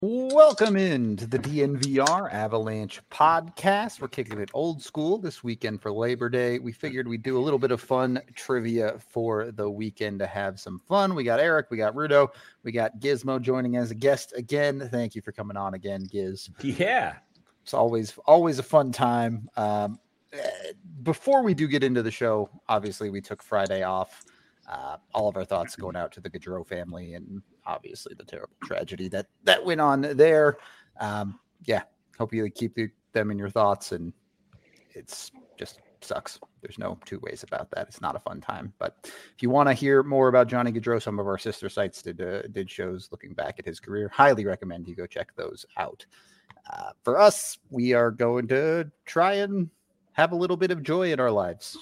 Welcome into the DNVR Avalanche podcast. We're kicking it old school this weekend for Labor Day. We figured we'd do a little bit of fun trivia for the weekend to have some fun. We got Eric, we got Rudo, we got Gizmo joining as a guest again. Thank you for coming on again, Giz. Yeah. It's always a fun time. Before we do get into the show, obviously we took Friday off. All of our thoughts going out to the Gaudreau family and obviously the terrible tragedy that went on there. Hope you keep them in your thoughts, and it's just sucks. There's no two ways about that. It's not a fun time. But if you want to hear more about Johnny Gaudreau, some of our sister sites did shows looking back at his career. Highly recommend you go check those out. For us, we are going to try and have a little bit of joy in our lives.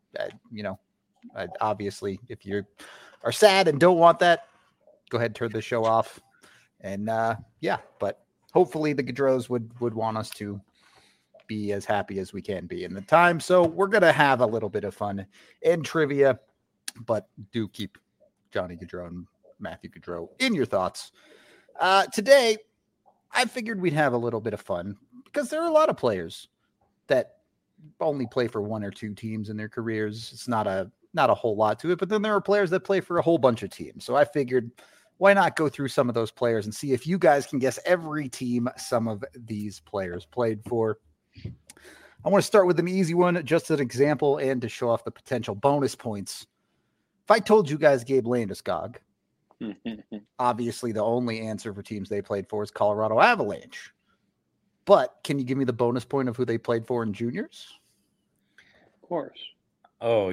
Obviously, if you are sad and don't want that, go ahead and turn the show off. And but hopefully the Gaudreaus would want us to be as happy as we can be in the time. So we're going to have a little bit of fun and trivia, but do keep Johnny Gaudreau and Matthew Gaudreau in your thoughts. Today, I figured we'd have a little bit of fun because there are a lot of players that only play for one or two teams in their careers. It's not a whole lot to it, but then there are players that play for a whole bunch of teams. So I figured, why not go through some of those players and see if you guys can guess every team some of these players played for. I want to start with an easy one, just an example, and to show off the potential bonus points. If I told you guys Gabe Landeskog, obviously the only answer for teams they played for is Colorado Avalanche. But can you give me the bonus point of who they played for in juniors? Of course. Oh,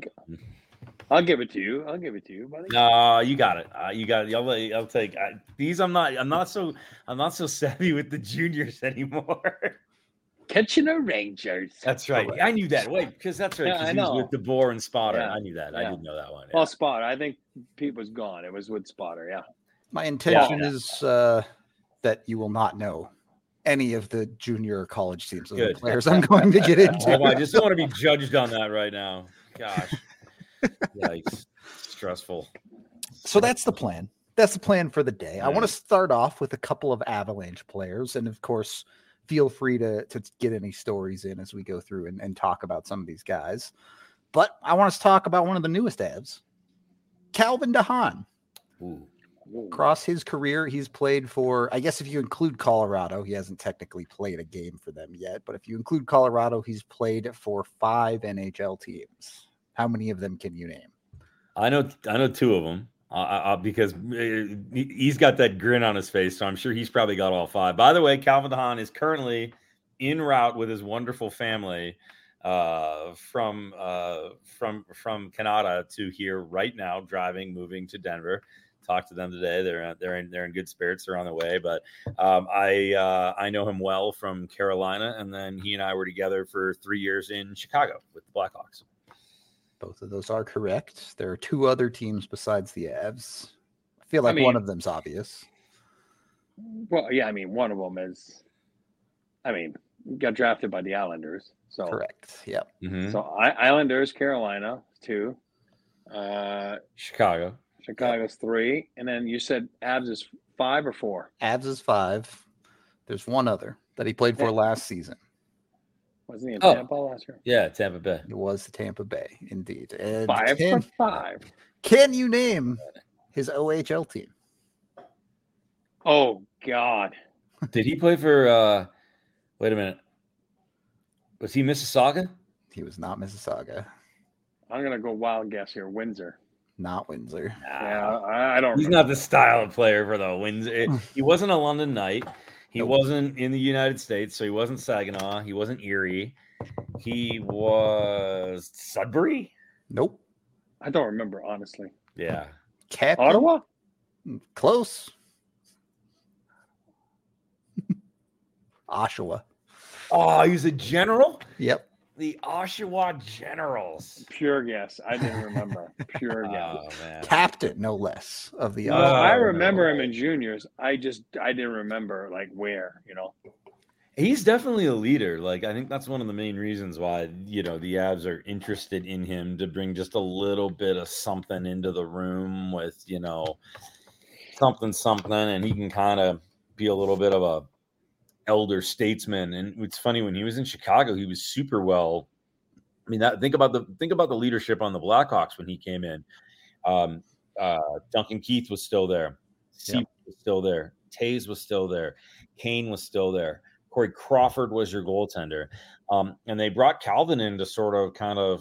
I'll give it to you. Buddy. No, you got it. You got it. I'll take these. I'm not so savvy with the juniors anymore. Kitchener Rangers. That's right. I knew that. Wait, because that's right. Yeah, I he was know. with DeBoer and Spotter. Yeah. I knew that. Yeah. I didn't know that one. Yeah. Well, Spotter. I think Pete was gone. It was with Spotter. Yeah. My intention is that you will not know any of the junior or college teams of the players I'm going to get into. I just don't want to be judged on that right now. Gosh. Yikes. Stressful. So that's the plan. That's the plan for the day. Yeah. I want to start off with a couple of Avalanche players. And of course, feel free to get any stories in as we go through and talk about some of these guys. But I want us to talk about one of the newest Avs, Calvin DeHaan. Ooh. Across his career, he's played for, I guess if you include Colorado, he hasn't technically played a game for them yet, but if you include Colorado, he's played for 5 NHL teams. How many of them can you name? I know 2 of them because he's got that grin on his face, so I'm sure he's probably got all 5. By the way, Calvin DeHaan is currently en route with his wonderful family from Canada to here right now, moving to Denver. Talked to them today. They're in good spirits. They're on the way. But I know him well from Carolina, and then he and I were together for 3 years in Chicago with the Blackhawks. Both of those are correct. There are 2 other teams besides the Avs. I feel like one of them's obvious. Well, yeah, one of them is. Got drafted by the Islanders. So correct. Yep. Mm-hmm. So Islanders, Carolina 2, Chicago's 3, and then you said Avs is 5 or 4? Avs is 5. There's one other that he played for last season. Wasn't he in Tampa last year? Yeah, Tampa Bay. It was the Tampa Bay, indeed. And 5 for 5. Can you name his OHL team? Oh, God. Did he play for wait a minute. Was he Mississauga? He was not Mississauga. I'm going to go wild guess here. Windsor. Not Windsor. Yeah, I don't. He's not the style of player for the Windsor. He wasn't a London Knight. He wasn't in the United States, so he wasn't Saginaw. He wasn't Erie. He was Sudbury? Nope. I don't remember, honestly. Yeah. Captain? Ottawa? Close. Oshawa. Oh, he was a general? Yep. The Oshawa Generals. Pure guess. I didn't remember. Pure guess. Oh, man. Captain, no less, of the Well, I remember him in juniors. I didn't remember where, He's definitely a leader. I think that's one of the main reasons why, the Avs are interested in him, to bring just a little bit of something into the room with, something, and he can kind of be a little bit of a elder statesman. And it's funny, when he was in Chicago, he was super well. I mean, think about the leadership on the Blackhawks when he came in. Duncan Keith was still there. Seabrook was still there. Taves was still there. Kane was still there. Corey Crawford was your goaltender. And they brought Calvin in to sort of kind of,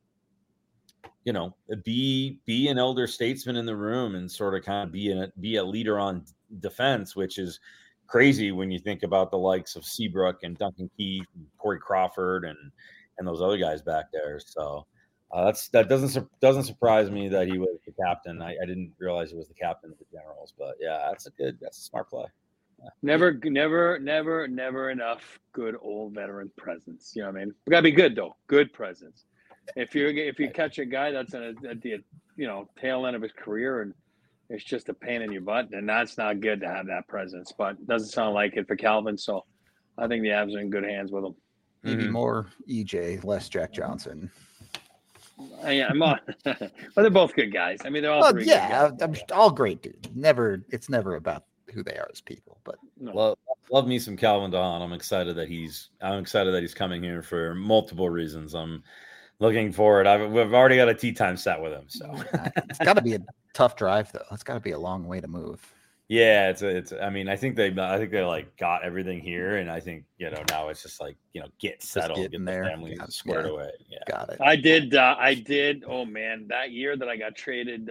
be an elder statesman in the room and sort of kind of be a leader on defense, which is crazy when you think about the likes of Seabrook and Duncan Keith, and Corey Crawford, and those other guys back there. So that doesn't surprise me that he was the captain. I didn't realize he was the captain of the Generals, but yeah, that's a smart play. Yeah. Never enough good old veteran presence. You know what I mean? We gotta be good though. Good presence. If you catch a guy that's at the tail end of his career and it's just a pain in your butt, then that's not good to have that presence. But it doesn't sound like it for Calvin, so I think the Avs are in good hands with him. Maybe more EJ, less Jack Johnson. Yeah, I'm on. Well, they're both good guys. I mean, they're all three. Yeah, good guys. all great dudes. It's never about who they are as people. But love me some Calvin DeHaan. I'm excited that he's coming here for multiple reasons. I'm looking forward. We've already got a tea time set with him, so it's got to be a tough drive though. It's got to be a long way to move. Yeah, it's. I mean, I think they like got everything here, and I think now it's just like get settled, get the family squared away. Yeah, got it. I did. Oh man, that year that I got traded,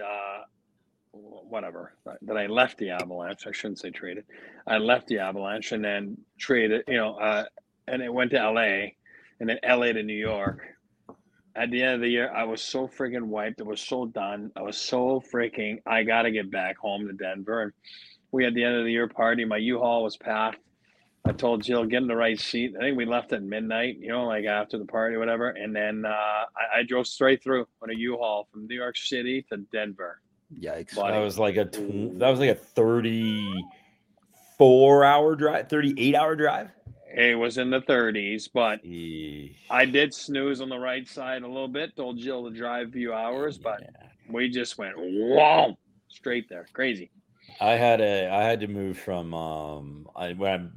that I left the Avalanche. I shouldn't say traded. I left the Avalanche and then traded. And it went to LA, and then LA to New York. At the end of the year, I was so freaking wiped. I was so done. I was so freaking, I got to get back home to Denver. And we had the end of the year party. My U-Haul was packed. I told Jill, get in the right seat. I think we left at midnight, like after the party or whatever. And then I drove straight through on a U-Haul from New York City to Denver. Yikes. That was like a 34-hour drive, 38-hour drive. It was in the 30s, but I did snooze on the right side a little bit. Told Jill to drive a few hours, but we just went whoa, straight there. Crazy. I had to move from I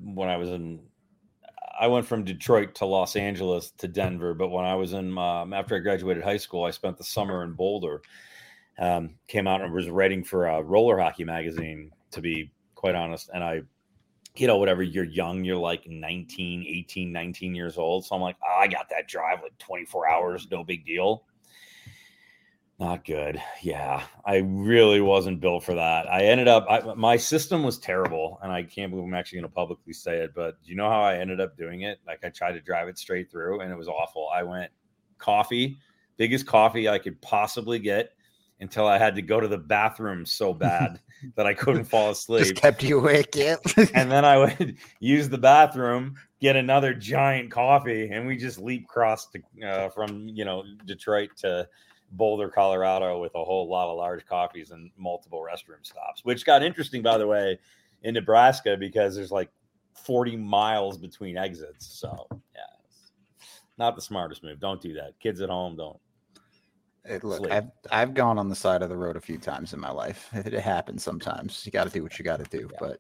went from Detroit to Los Angeles to Denver, but when I was in after I graduated high school, I spent the summer in Boulder. Came out and was writing for a roller hockey magazine, to be quite honest, and I. Whatever, you're young, you're like 18, 19 years old. So I'm like, I got that drive like 24 hours, no big deal. Not good. Yeah, I really wasn't built for that. I ended up, my system was terrible, and I can't believe I'm actually going to publicly say it, but do you know how I ended up doing it? Like, I tried to drive it straight through, and it was awful. I went biggest coffee I could possibly get, until I had to go to the bathroom so bad that I couldn't fall asleep. Just kept you awake, yeah. And then I would use the bathroom, get another giant coffee, and we just leap crossed from Detroit to Boulder, Colorado, with a whole lot of large coffees and multiple restroom stops, which got interesting, by the way, in Nebraska, because there's like 40 miles between exits. So yeah, not the smartest move. Don't do that. Kids at home, don't. Look, I've gone on the side of the road a few times in my life. It happens sometimes. You got to do what you got to do. But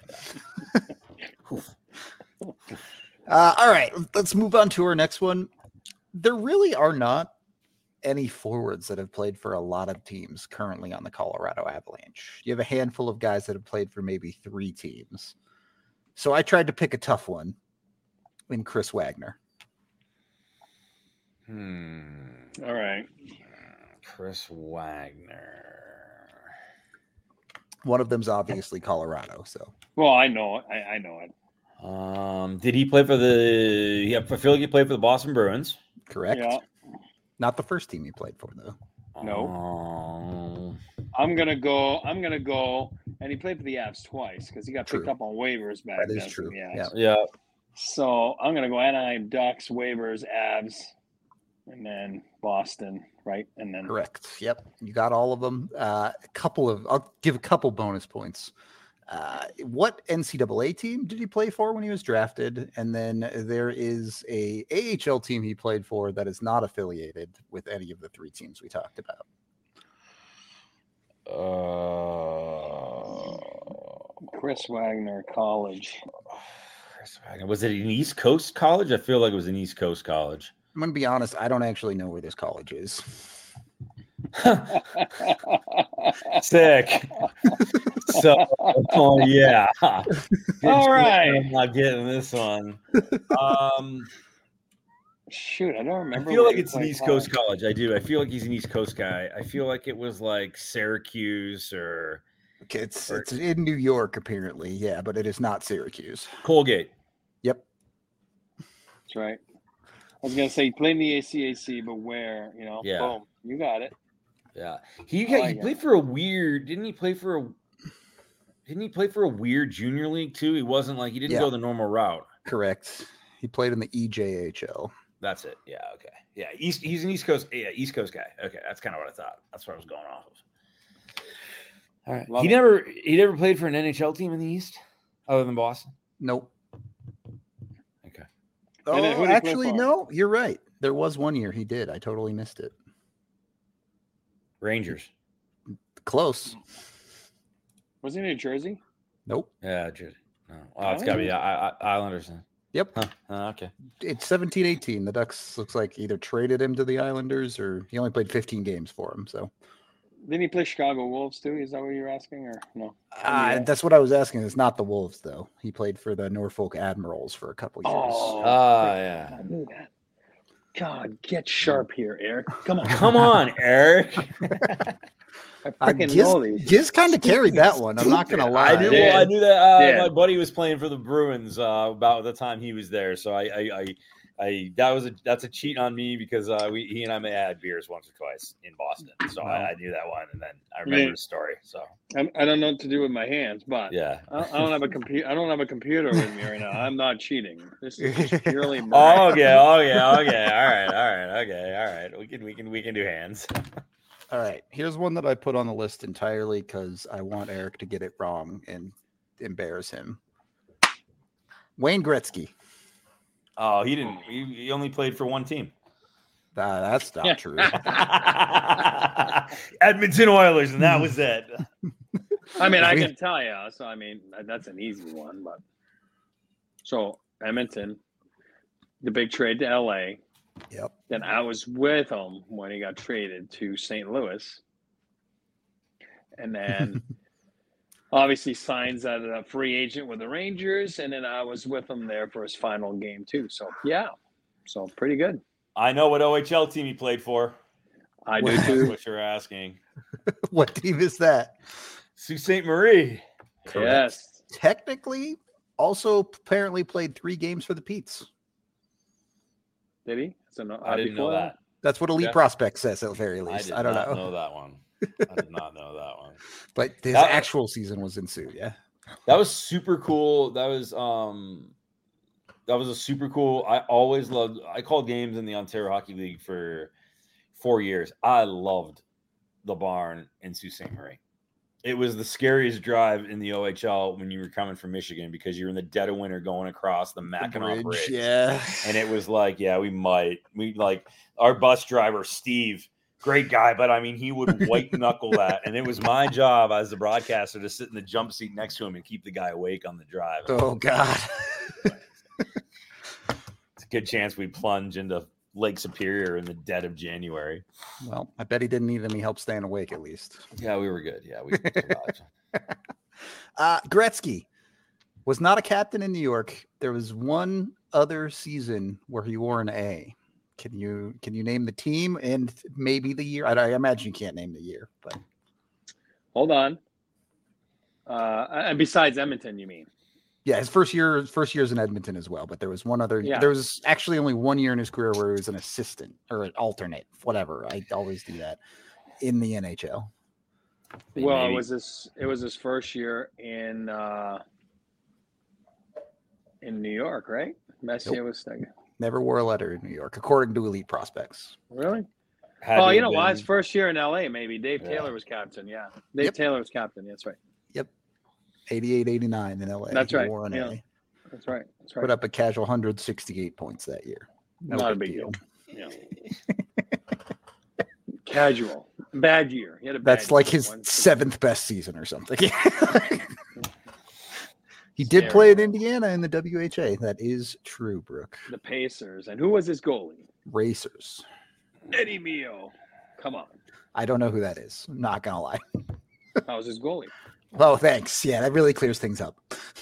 all right, let's move on to our next one. There really are not any forwards that have played for a lot of teams currently on the Colorado Avalanche. You have a handful of guys that have played for maybe 3 teams. So I tried to pick a tough one in Chris Wagner. All right. Chris Wagner. One of them's obviously Colorado. So. Well, I know it. I know it. Did he play for I feel like he played for the Boston Bruins. Correct. Yeah. Not the first team he played for, though. No. I'm gonna go, and he played for the Avs twice because he got picked up on waivers back then. That is true. Yeah. So I'm gonna go Anaheim Ducks, waivers, Avs, and then Boston, right? And then correct. Yep, you got all of them. I'll give a couple bonus points. What NCAA team did he play for when he was drafted? And then there is a AHL team he played for that is not affiliated with any of the 3 teams we talked about. Chris Wagner College. Chris Wagner. Was it an East Coast college? I feel like it was an East Coast college. I'm going to be honest. I don't actually know where this college is. Sick. So, oh yeah. All right. I'm not getting this one. Shoot, I don't remember. I feel like it's an East Coast college. I do. I feel like he's an East Coast guy. I feel like it was like Syracuse or Okay, it's in New York apparently. Yeah, but it is not Syracuse. Colgate. Yep. That's right. I was gonna say he played in the ACAC, but where? Yeah. Boom, you got it. Yeah. He played for a weird. Didn't he play for a weird junior league too? He wasn't like he didn't go the normal route. Correct. He played in the EJHL. That's it. Yeah. Okay. Yeah. He's an East Coast. Yeah. East Coast guy. Okay. That's kind of what I thought. That's what I was going off of. All right. He never played for an NHL team in the East other than Boston. Nope. Okay. Oh, actually, no. You're right. There was one year he did. I totally missed it. Rangers. Close. Was he in New Jersey? Nope. Yeah, Jersey. No. Oh, it's got to be Islanders then. Yep. Huh. Okay. It's 17-18. The Ducks looks like either traded him to the Islanders or he only played 15 games for him. So Didn't he play Chicago Wolves too? Is that what you're asking, or no? That's what I was asking. It's not the Wolves though. He played for the Norfolk Admirals for a couple years. Oh, yeah. I knew that. God, get sharp here, Eric. Come on. Come on, Eric. I freaking know these. Giz kind of carried that one. I'm not gonna lie. I knew that my buddy was playing for the Bruins about the time he was there. So that's a cheat on me because he and I had beers once or twice in Boston. So I knew that one, and then I remember the story. So I don't know what to do with my hands, but yeah, I don't have a computer. I don't have a computer with me right now. I'm not cheating. This is just purely. Okay. All right. We can do hands. All right. Here's one that I put on the list entirely because I want Eric to get it wrong and embarrass him. Wayne Gretzky. Oh, he didn't. He only played for one team. That's not true. Edmonton Oilers, and that was it. I mean, I can tell you. So, I mean, that's an easy one. But so Edmonton, the big trade to LA. Yep. Then I was with him when he got traded to St. Louis, and then obviously signs as a free agent with the Rangers, and then I was with him there for his final game too. So yeah, so pretty good. I know what OHL team he played for. I do too. That's what you're asking. What team is that? Sault Ste. Marie. Yes. Technically, also apparently played 3 games for the Petes. Did he? So no, I didn't know that. That's what Elite Prospect says at the very least. I don't know that one. I did not know that one. But his actual season was in Sioux, yeah. That was super cool. That was a super cool. I called games in the Ontario Hockey League for 4 years. I loved the barn in Sault Ste. Marie. It was the scariest drive in the OHL when you were coming from Michigan because you're in the dead of winter going across the Mackinac Bridge. Yeah. And it was like, our bus driver, Steve, great guy, but I mean, he would white knuckle that. And it was my job as the broadcaster to sit in the jump seat next to him and keep the guy awake on the drive. Oh, God. It's a good chance we plunge into Lake Superior in the dead of January. Well, I bet he didn't need any help staying awake at least. Yeah, we were good. Yeah, we survived. Gretzky was not a captain in New York. There was one other season where he wore an A. Can you name the team and maybe the year? I imagine you can't name the year, but hold on. And besides Edmonton, you mean? Yeah, his first year's in Edmonton as well. But there was one other. Yeah. There was actually only 1 year in his career where he was an assistant or an alternate, whatever. I always do that in the NHL. Well, maybe. It was his first year in New York, right? Messier was second. Never wore a letter in New York, according to Elite Prospects. Really? You know what? His first year in LA, maybe. Dave Taylor was captain. Yeah, Dave Taylor was captain. That's right. Yep. 88, 89 in LA. That's right. Wore an A. That's right. Put up a casual 168 points that year. Not a big deal. Yeah. Casual. Bad year. He had a bad That's like his 7th best season or something. He did play in Indiana in the WHA. That is true, Brooke. The Pacers. And who was his goalie? Racers. Eddie Mio. Come on. I don't know who that is. I'm not going to lie. How was his goalie? Oh, thanks. Yeah, that really clears things up.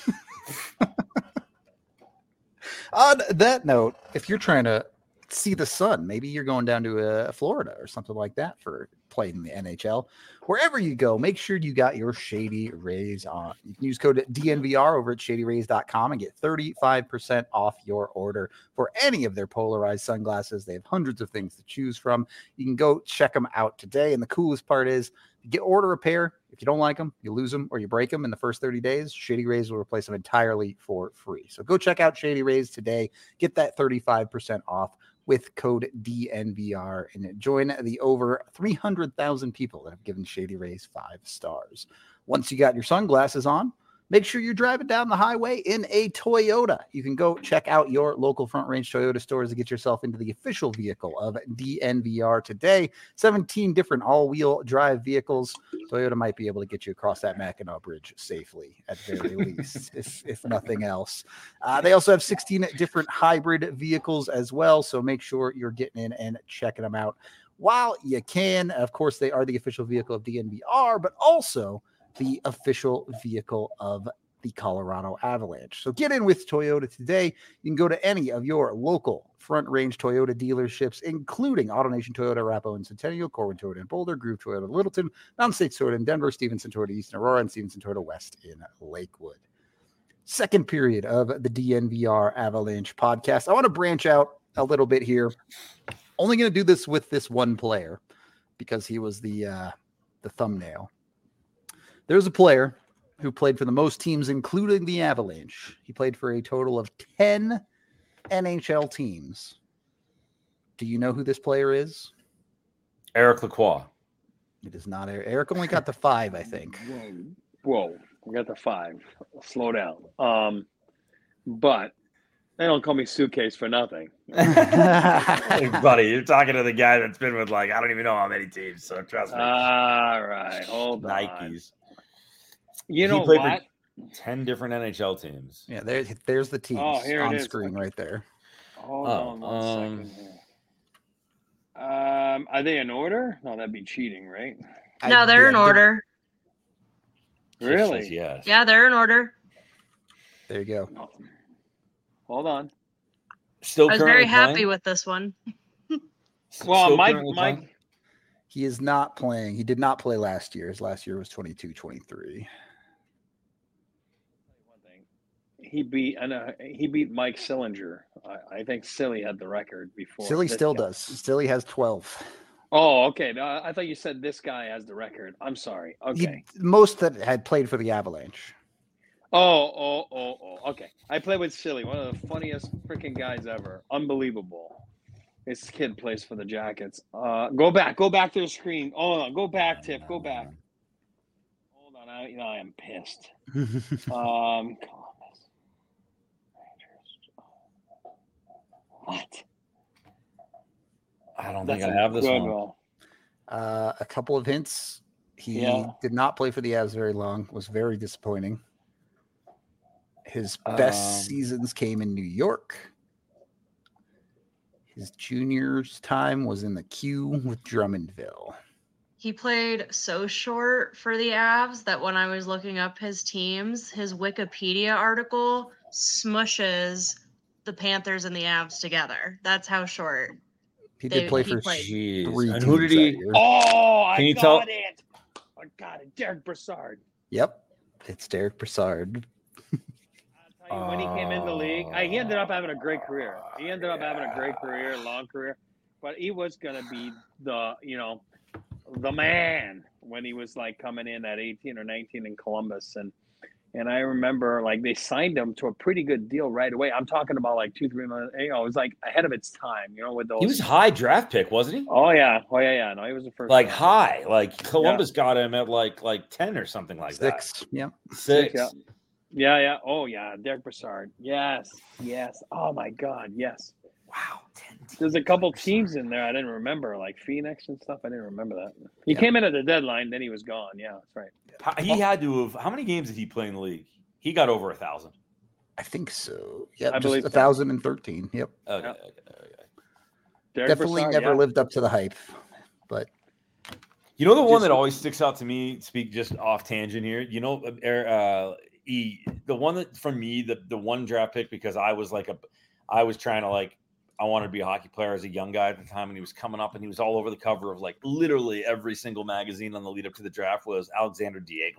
On that note, if you're trying to see the sun, maybe you're going down to Florida or something like that for playing in the NHL. Wherever you go, make sure you got your Shady Rays on. You can use code DNVR over at shadyrays.com and get 35% off your order for any of their polarized sunglasses. They have hundreds of things to choose from. You can go check them out today. And the coolest part is, order a pair. If you don't like them, you lose them or you break them in the first 30 days, Shady Rays will replace them entirely for free. So go check out Shady Rays today. Get that 35% off with code DNVR and join the over 300,000 people that have given Shady Rays 5 stars. Once you got your sunglasses on, make sure you're driving down the highway in a Toyota. You can go check out your local Front Range Toyota stores to get yourself into the official vehicle of DNVR today. 17 different all-wheel drive vehicles. Toyota might be able to get you across that Mackinac Bridge safely, at very least, if nothing else. They also have 16 different hybrid vehicles as well, so make sure you're getting in and checking them out while you can. Of course, they are the official vehicle of DNVR, but also the official vehicle of the Colorado Avalanche. So get in with Toyota today. You can go to any of your local Front Range Toyota dealerships, including AutoNation Toyota, Arapahoe and Centennial, Corwin Toyota in Boulder, Groove Toyota Littleton, Mountain States Toyota in Denver, Stevenson Toyota East in Aurora, and Stevenson Toyota West in Lakewood. Second period of the DNVR Avalanche podcast. I want to branch out a little bit here. Only going to do this with this one player because he was the thumbnail. There's a player who played for the most teams, including the Avalanche. He played for a total of 10 NHL teams. Do you know who this player is? Eric Lacroix. It is not Eric. Eric only got the 5, I think. Whoa. We got the 5. Slow down. But they don't call me Suitcase for nothing. Hey, buddy, you're talking to the guy that's been with, I don't even know how many teams, so trust me. All right. Hold on. Nikes. You know what? 10 different NHL teams. Yeah, there's the teams on screen right there. Hold on 1 second here. Are they in order? No, that'd be cheating, right? No, they're in order. Really? Yes. Yeah, they're in order. There you go. Oh. Hold on. Still I was very happy with this one. Well, Mike. He is not playing. He did not play last year. His last year was 22-23. He beat Mike Sillinger. I think Silly had the record before. Silly still does. Silly has 12. Oh, okay. No, I thought you said this guy has the record. I'm sorry. Okay. Most that had played for the Avalanche. Oh. Okay. I played with Silly, one of the funniest freaking guys ever. Unbelievable. This kid plays for the Jackets. Go back to the screen. Hold on. Go back, Tiff. Go back. Hold on. I am pissed. Columbus. What? I don't think I have this one. A couple of hints. He did not play for the Avs very long. Was very disappointing. His best seasons came in New York. His junior's time was in the queue with Drummondville. He played so short for the Avs that when I was looking up his teams, his Wikipedia article smushes the Panthers and the Avs together. That's how short. He did play for Jeez. 3 And who did he? I got it. Derek Brassard. Yep. It's Derek Brassard. I'll tell you, when he came in the league, he ended up having a great career. Long career. But he was going to be the man when he was coming in at 18 or 19 in Columbus. And I remember they signed him to a pretty good deal right away. I'm talking about 2-3 months. It was ahead of its time, with those. He was high draft pick, wasn't he? Oh yeah. No, he was the first. High. Columbus got him at 10 or something like 6. that. Yeah. 6. Yeah. Oh yeah. Derek Brassard. Yes. Oh my God. Yes. Wow. 10 There's a couple teams in there I didn't remember, like Phoenix and stuff. I didn't remember that. He came in at the deadline, then he was gone. Yeah, that's right. He had to have. How many games did he play in the league? He got over 1,000. I think so. Yeah, I just believe so. 1,013. Yep. Okay. Yep. Okay. Derek Definitely Brassard, never yeah. lived up to the hype, but You know the one Just- that always sticks out to me, speak just off tangent here, you know, the one that for me, the one draft pick, because I was trying to I wanted to be a hockey player as a young guy at the time, and he was coming up and he was all over the cover of like literally every single magazine on the lead up to the draft, was Alexander Diego.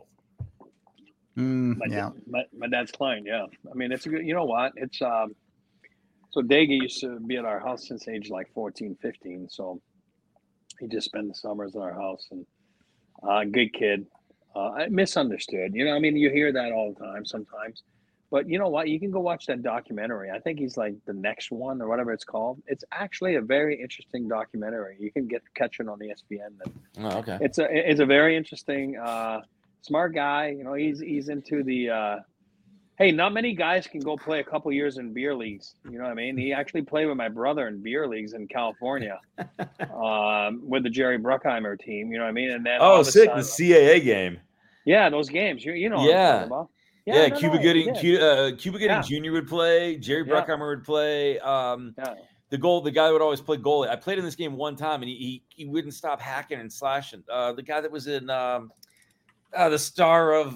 My dad's client, yeah. I mean, it's a good, you know what? It's, so Daggy used to be at our house since age like 14, 15. So he just spent the summers at our house, and good kid. Misunderstood. You know, I mean, you hear that all the time sometimes. But you know what? You can go watch that documentary. I think he's like the next one or whatever it's called. It's actually a very interesting documentary. You can catch it on ESPN. Oh, okay. It's a very interesting, smart guy. You know, he's into the. Hey, not many guys can go play a couple years in beer leagues. You know what I mean? He actually played with my brother in beer leagues in California, with the Jerry Bruckheimer team. You know what I mean? And then all of a sick! sudden- The CAA game. yeah, those games. You know what Yeah. I'm talking about. Yeah, no, Cuba no, Gooding, yeah. Cuba Gooding Yeah. Jr. would play. Jerry Yeah. Bruckheimer would play. Yeah. The guy that would always play goalie. I played in this game one time, and he wouldn't stop hacking and slashing. The guy that was in the star of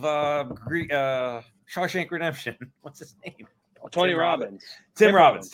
Shawshank Redemption. What's his name? Tony Tim Robbins. Tim Robbins.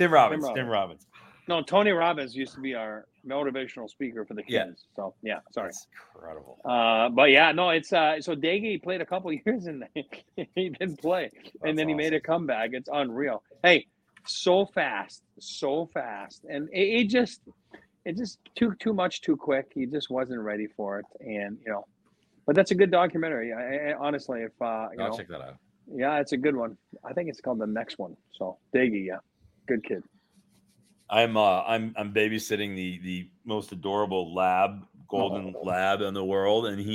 No, Tony Robbins used to be our motivational speaker for the kids. Yeah. So yeah, sorry. That's incredible. But yeah, no, it's so Daggy played a couple years and he didn't play, and then he made a comeback. It's unreal. Hey, so fast, and it just too much too quick. He just wasn't ready for it, and you know. But that's a good documentary. I honestly, if I'll check that out. yeah, it's a good one. I think it's called The Next One. So Daggy, yeah, good kid. I'm babysitting the most adorable golden lab in the world, and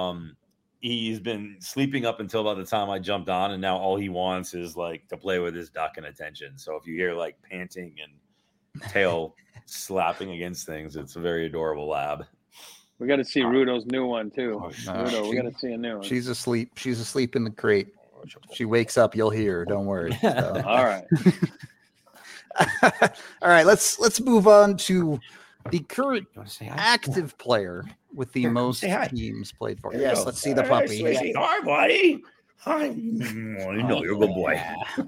he's been sleeping up until about the time I jumped on, and now all he wants is like to play with his duck and attention. So if you hear like panting and tail slapping against things, it's a very adorable lab. We got to see Rudo's new one too. Oh, Rudo, we got to see a new one. she's asleep. She's asleep in the crate. She wakes up, you'll hear her. Don't worry. So. All right. All right, let's move on to the current You want to say hi? active player with the most say hi. teams played for. There you Yes, go. let's see the All right, puppy. sweetie. Hi, buddy. Hi. I know you're a good boy.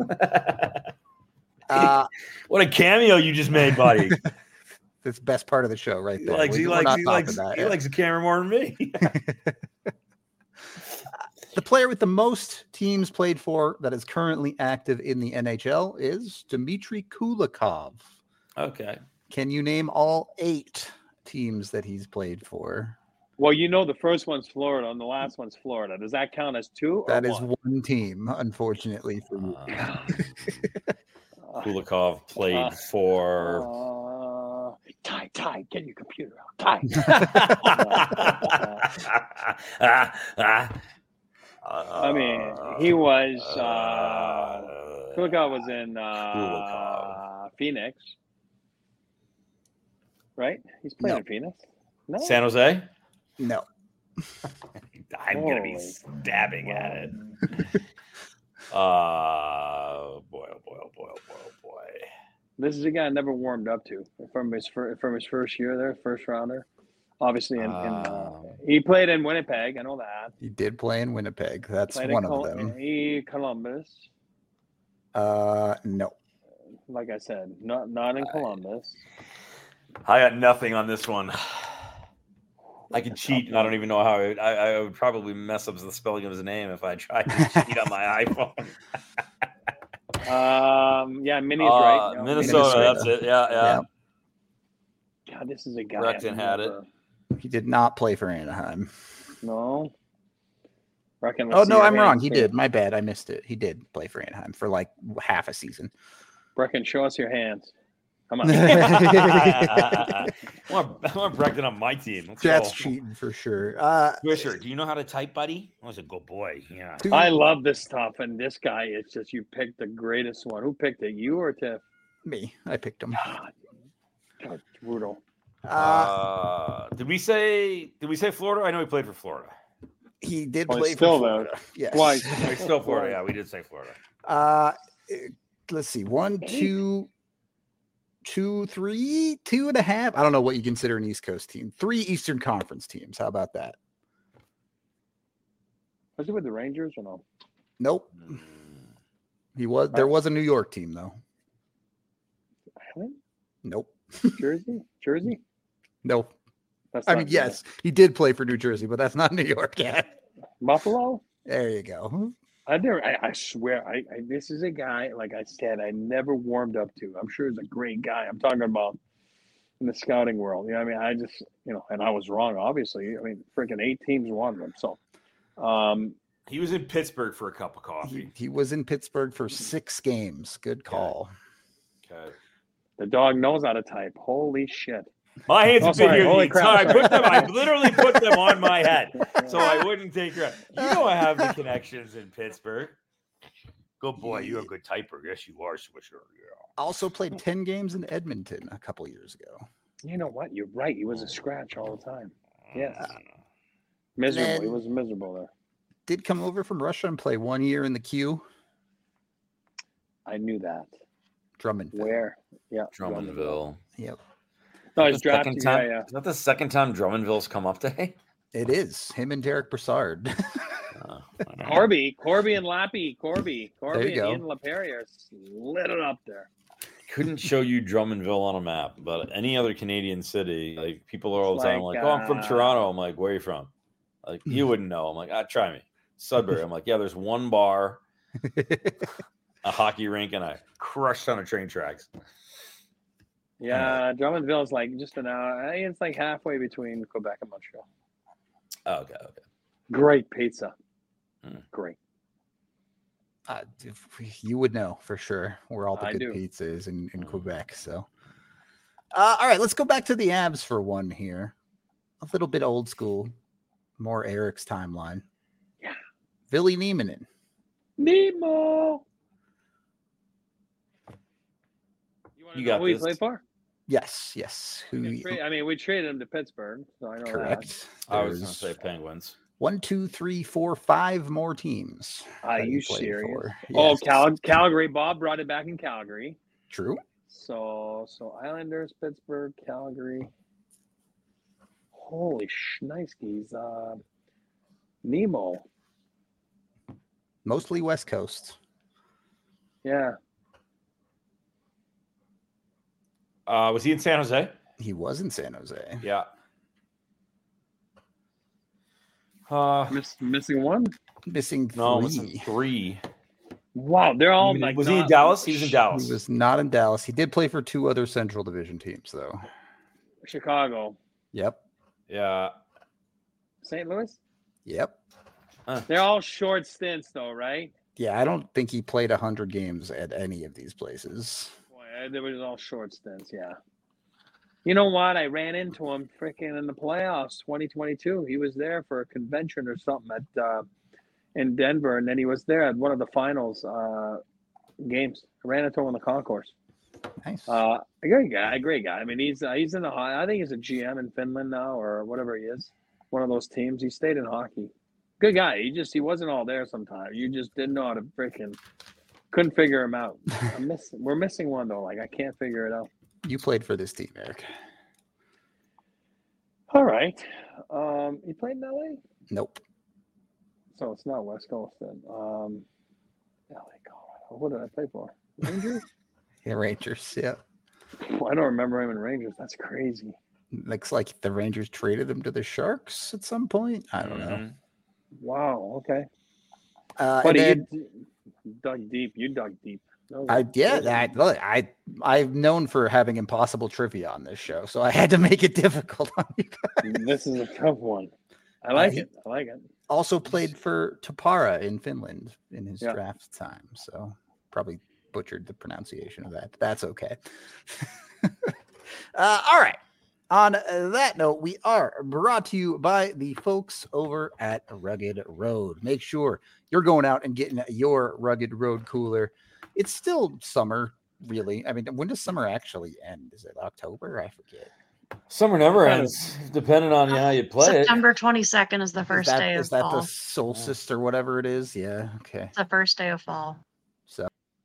What a cameo you just made, buddy. That's the best part of the show, right He there. likes We're not topping the camera more than me. The player with the most teams played for that is currently active in the NHL is Dmitry Kulikov. Okay. Can you name all 8 teams that he's played for? Well, you know, the first one's Florida and the last one's Florida. Does that count as 2? That or is one? one team, unfortunately for you. Kulikov played for. Ty, get your computer out. Ty. I mean, he was. Kulikov was in Phoenix, right? He's playing in Phoenix. No, San Jose. No. I'm gonna be stabbing at it. Boy, oh boy. This is a guy I never warmed up to from his first year there, first rounder. Obviously, he played in Winnipeg. I know that. He did play in Winnipeg. That's Played one in of them. Columbus. No. Like I said, not in Columbus. I got nothing on this one. I could cheat, and I don't even know how. I would probably mess up the spelling of his name if I tried to cheat on my iPhone. Yeah, Minnie's right. No, Minnesota, that's it. Yeah. God, this is a guy. Recton had it. He did not play for Anaheim. No. Reckon, Oh, no, I'm wrong. He did. My bad. I missed it. He did play for Anaheim for like half a season. Brecken, show us your hands. Come on. I want Brecton on my team. Let's That's go. cheating for sure. Swisher, do you know how to type, buddy? I was a good boy. Yeah. I love this stuff, and this guy, it's just you picked the greatest one. Who picked it? You or Tiff? Me. I picked him. God, brutal. Did we say Florida? I know he played for Florida. He did Oh, he's play still for there. Florida. Yes. Twice. It's still Florida. Yeah, we did say Florida. Let's see. 1, 2, 2, 3, 2.5. I don't know what you consider an East Coast team. 3 Eastern Conference teams. How about that? Was he with the Rangers or no? Nope. He was. There was a New York team though. Island? Nope. Jersey? Nope. That's I not mean, good. yes, he did play for New Jersey, but that's not New York yet. Buffalo? There you go. I swear, this is a guy, like I said, I never warmed up to. I'm sure he's a great guy. I'm talking about in the scouting world. You know, I mean, I just, and I was wrong, obviously. I mean, freaking 8 teams wanted him. So, He was in Pittsburgh for a cup of coffee. He was in Pittsburgh for 6 games. Good call. Okay. the dog knows how to type. Holy shit. My hands have been sorry. here the Holy entire crap. time. I literally put them on my head so I wouldn't take your. You know I have the connections in Pittsburgh. Good boy, you're a good typer. Yes, you are, Swisher. Yeah. Also played 10 games in Edmonton a couple years ago. You know what? You're right. He was a scratch all the time. Yes. Miserable. He was miserable there. Did come over from Russia and play 1 year in the queue. I knew that. Drummondville. Where? Yeah. Drummondville. Yep. No, he's The drafted. second time, Yeah. Is that the second time Drummondville's come up today? It is. Him and Derek Brassard. Corby and Lappy. Corby There you and go. Ian LaPerriere lit it up there. Couldn't show you Drummondville on a map, but any other Canadian city, like people are all the time like, "Oh, I'm from Toronto." I'm like, "Where are you from?" Like, you wouldn't know. I'm like, try me. Sudbury. I'm like, yeah, there's one bar, a hockey rink, and a crushed ton of train tracks. Yeah, Drummondville is like just an hour. I think it's like halfway between Quebec and Montreal. Okay. Great pizza. Mm. Great. You would know for sure where all the I good do. pizza is in Quebec. So, all right, let's go back to the Avs for one here. A little bit old school, more Eric's timeline. Yeah. Ville Nieminen. Nemo. You know got who he this. played for? Yes. I mean, we traded him to Pittsburgh, so I know Correct. I was going to There's say Penguins. 1, 2, 3, 4, 5 more teams. Are that he you played serious? for. Oh, Yes. Calgary. Bob brought it back in Calgary. True. So Islanders, Pittsburgh, Calgary. Holy shnikes. Nemo. Mostly West Coast. Yeah. Was he in San Jose? He was in San Jose. Yeah. Missing one? Missing No, 3. missing 3. Wow, they're all like. Was he in Dallas? He was in Dallas. He was not in Dallas. He did play for 2 other Central Division teams, though. Chicago. Yep. Yeah. St. Louis? Yep. They're all short stints, though, right? Yeah, I don't think he played 100 games at any of these places. Boy, they were all short stints, yeah. You know what? I ran into him freaking in the playoffs 2022. He was there for a convention or something at in Denver, and then he was there at one of the finals games. I ran into him on the concourse. Nice. A great guy. I mean, he's in the. I think he's a GM in Finland now, or whatever he is. One of those teams. He stayed in hockey. Good guy. He wasn't all there sometimes. You just didn't know how to freaking couldn't figure him out. We're missing one though. Like I can't figure it out. You played for this team, Eric. All right. He played in LA, Nope. so it's not West Coast then. LA, Colorado. What did I play for? Rangers. Yeah, Rangers. Yeah. I don't remember him in Rangers. That's crazy. Looks like the Rangers traded him to the Sharks at some point. I don't Mm-hmm. know. Wow. Okay. And then, You dug deep. You dug deep. I've known for having impossible trivia on this show, so I had to make it difficult on you guys. This is a tough one. I like it. Also played for Tappara in Finland in his Yeah. draft time, so probably butchered the pronunciation of that. But that's okay. All right. On that note, we are brought to you by the folks over at Rugged Road. Make sure you're going out and getting your Rugged Road cooler. It's still summer, really. I mean, when does summer actually end? Is it October? I forget. Summer never Kind of- ends, depending on how you play it. September 22nd is the first day of Is that fall. the solstice or whatever it is? Yeah. Okay. It's the first day of fall. So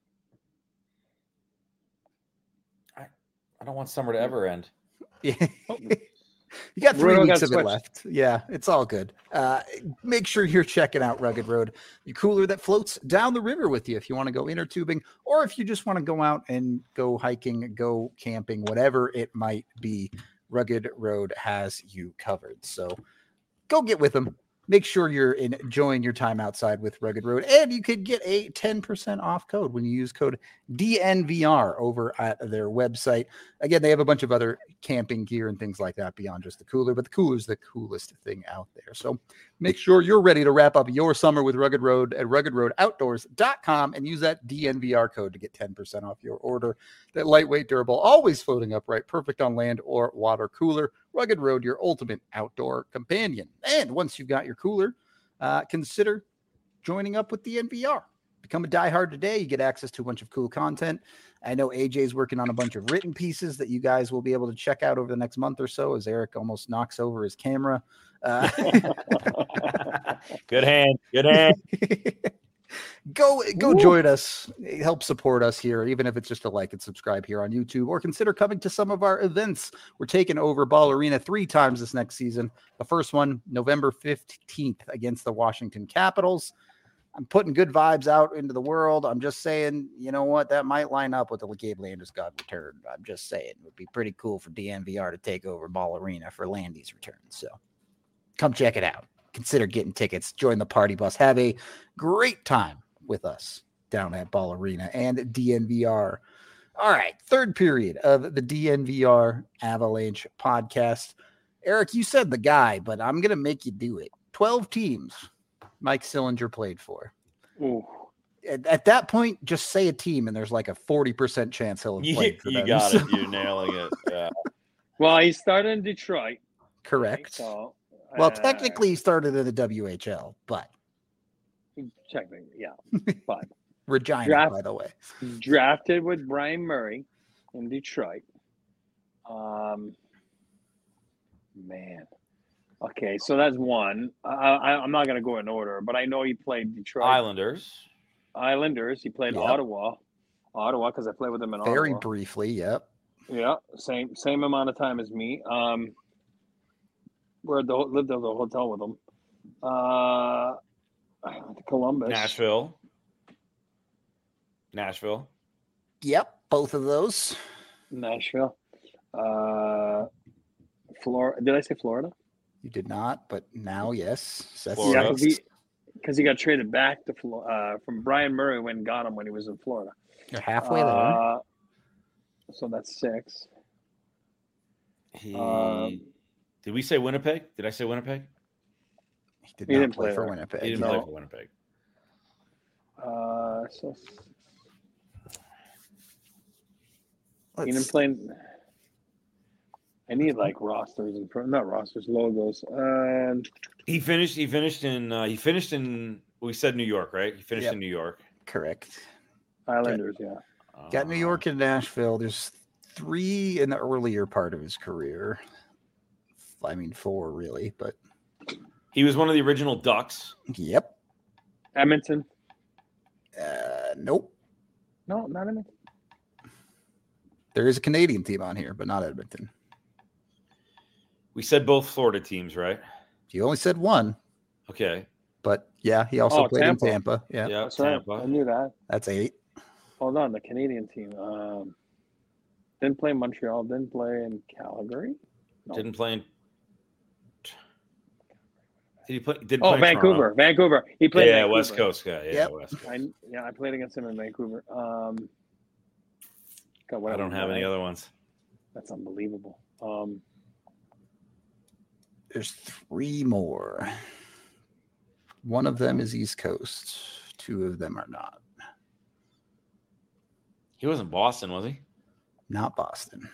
I don't want summer to ever end. yeah. You got 3 Bruno weeks got of it switched. left. Yeah, it's all good. Make sure you're checking out Rugged Road, the cooler that floats down the river with you if you want to go inner tubing, or if you just want to go out and go hiking, go camping, whatever it might be. Rugged Road has you covered. So go get with them. Make sure you're enjoying your time outside with Rugged Road, and you could get a 10% off code when you use code DNVR over at their website. Again, they have a bunch of other camping gear and things like that beyond just the cooler, but the cooler is the coolest thing out there. So make sure you're ready to wrap up your summer with Rugged Road at ruggedroadoutdoors.com and use that DNVR code to get 10% off your order. That lightweight, durable, always floating upright, perfect on land or water cooler. Rugged Road, your ultimate outdoor companion. And once you've got your cooler, consider joining up with the NVR. Become a diehard today. You get access to a bunch of cool content. I know AJ's working on a bunch of written pieces that you guys will be able to check out over the next month or so as Eric almost knocks over his camera. Good hand. Good hand. Go join us. Help support us here, even if it's just a like and subscribe here on YouTube, or consider coming to some of our events. We're taking over Ball Arena 3 times this next season. The first one, November 15th against the Washington Capitals. I'm putting good vibes out into the world. I'm just saying, you know what? That might line up with the Gabe Landeskog return. I'm just saying it would be pretty cool for DNVR to take over Ball Arena for Landy's return. So come check it out. Consider getting tickets. Join the party bus. Have a great time with us down at Ball Arena and DNVR. All right, third period of the DNVR Avalanche podcast. Eric, you said the guy, but I'm going to make you do it. 12 teams Mike Sillinger played for. Ooh. At that point, just say a team, and there's like a 40% chance he'll have played for them. You got it. You're nailing it. Yeah. Well, he started in Detroit. Correct. So, Well, technically, he started in the WHL, but technically, yeah. But Regina, by the way. drafted with Brian Murray in Detroit. Man. Okay, so that's one. I'm not going to go in order, but I know he played Detroit. Islanders. He played Yep. Ottawa, because I played with him in Very Ottawa. briefly, yep. Yeah, same amount of time as me. Lived at the hotel with him. Columbus, Nashville. Yep, both of those. Nashville, Florida. Did I say Florida? You did not, but now, yes. That's Florida. Yeah, because he got traded back to from Brian Murray when got him when he was in Florida. You're halfway there. So that's 6. Did we say Winnipeg? Did I say Winnipeg? He did he not didn't play play for there. Winnipeg. He didn't no. play for Winnipeg. So Let's- he didn't play. I need like rosters and not rosters, logos. He finished in. We said New York, right? He finished Yep. in New York. Correct. Islanders, yeah. Got New York and Nashville. There's 3 in the earlier part of his career. I mean, 4 really, but He was one of the original Ducks. yep. Edmonton. Nope. No, not Edmonton. There is a Canadian team on here, but not Edmonton. We said both Florida teams, right? You only said 1, Okay. but yeah, he also played Tampa. in Tampa. Yeah, Yeah, That's right. Tampa. I knew that. that's 8. Hold on, the Canadian team. Didn't play in Montreal. Didn't play in Calgary. No. Didn't play in. Did he play? Did Oh, Vancouver. Vancouver. He played. Yeah, in West Vancouver. Coast guy. Yeah, Yep. West Coast. I played against him in Vancouver. God, I don't have any other ones. That's unbelievable. There's 3 more. One of them is East Coast. 2 of them are not. He wasn't Boston, was he? Not Boston.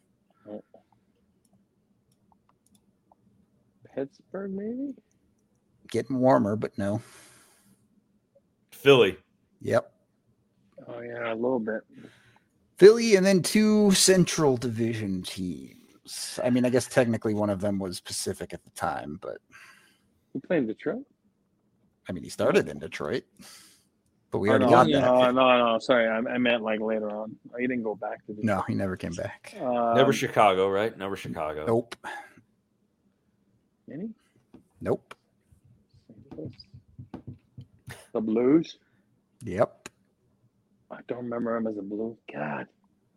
Pittsburgh, maybe. Getting warmer, but no. Philly. Yep. Oh yeah, a little bit. Philly, and then 2 Central Division teams. I mean, I guess technically one of them was Pacific at the time, but He played in Detroit. I mean, he started in Detroit. But we Oh, already no, got no, that. no. Sorry, I meant like later on. Oh, he didn't go back to Detroit. No, he never came back. Never Chicago, right? Never Chicago. Nope. Any? Nope. The Blues. Yep. I don't remember him as a Blue. God.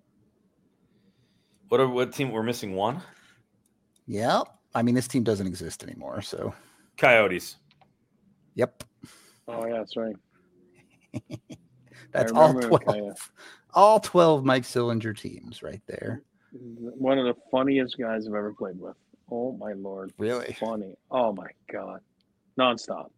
What team? We're missing one? Yep. I mean, this team doesn't exist anymore, so. Coyotes. Yep. Oh, yeah, that's right. That's I all remember 12. All 12 Mike Sillinger teams right there. One of the funniest guys I've ever played with. Oh, my Lord. Really? Funny. Oh, my God. Nonstop.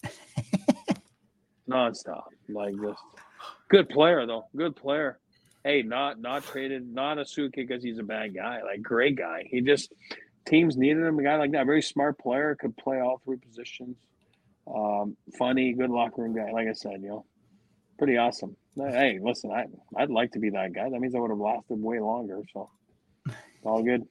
Nonstop. Like just good player, though. Good player. Hey, not traded, not a suit because he's a bad guy. Like, great guy. He just, teams needed him, a guy like that. Very smart player, could play all three positions. Funny, good locker room guy. Like I said, pretty awesome. Hey, listen, I'd like to be that guy. That means I would have lasted way longer. So, all good.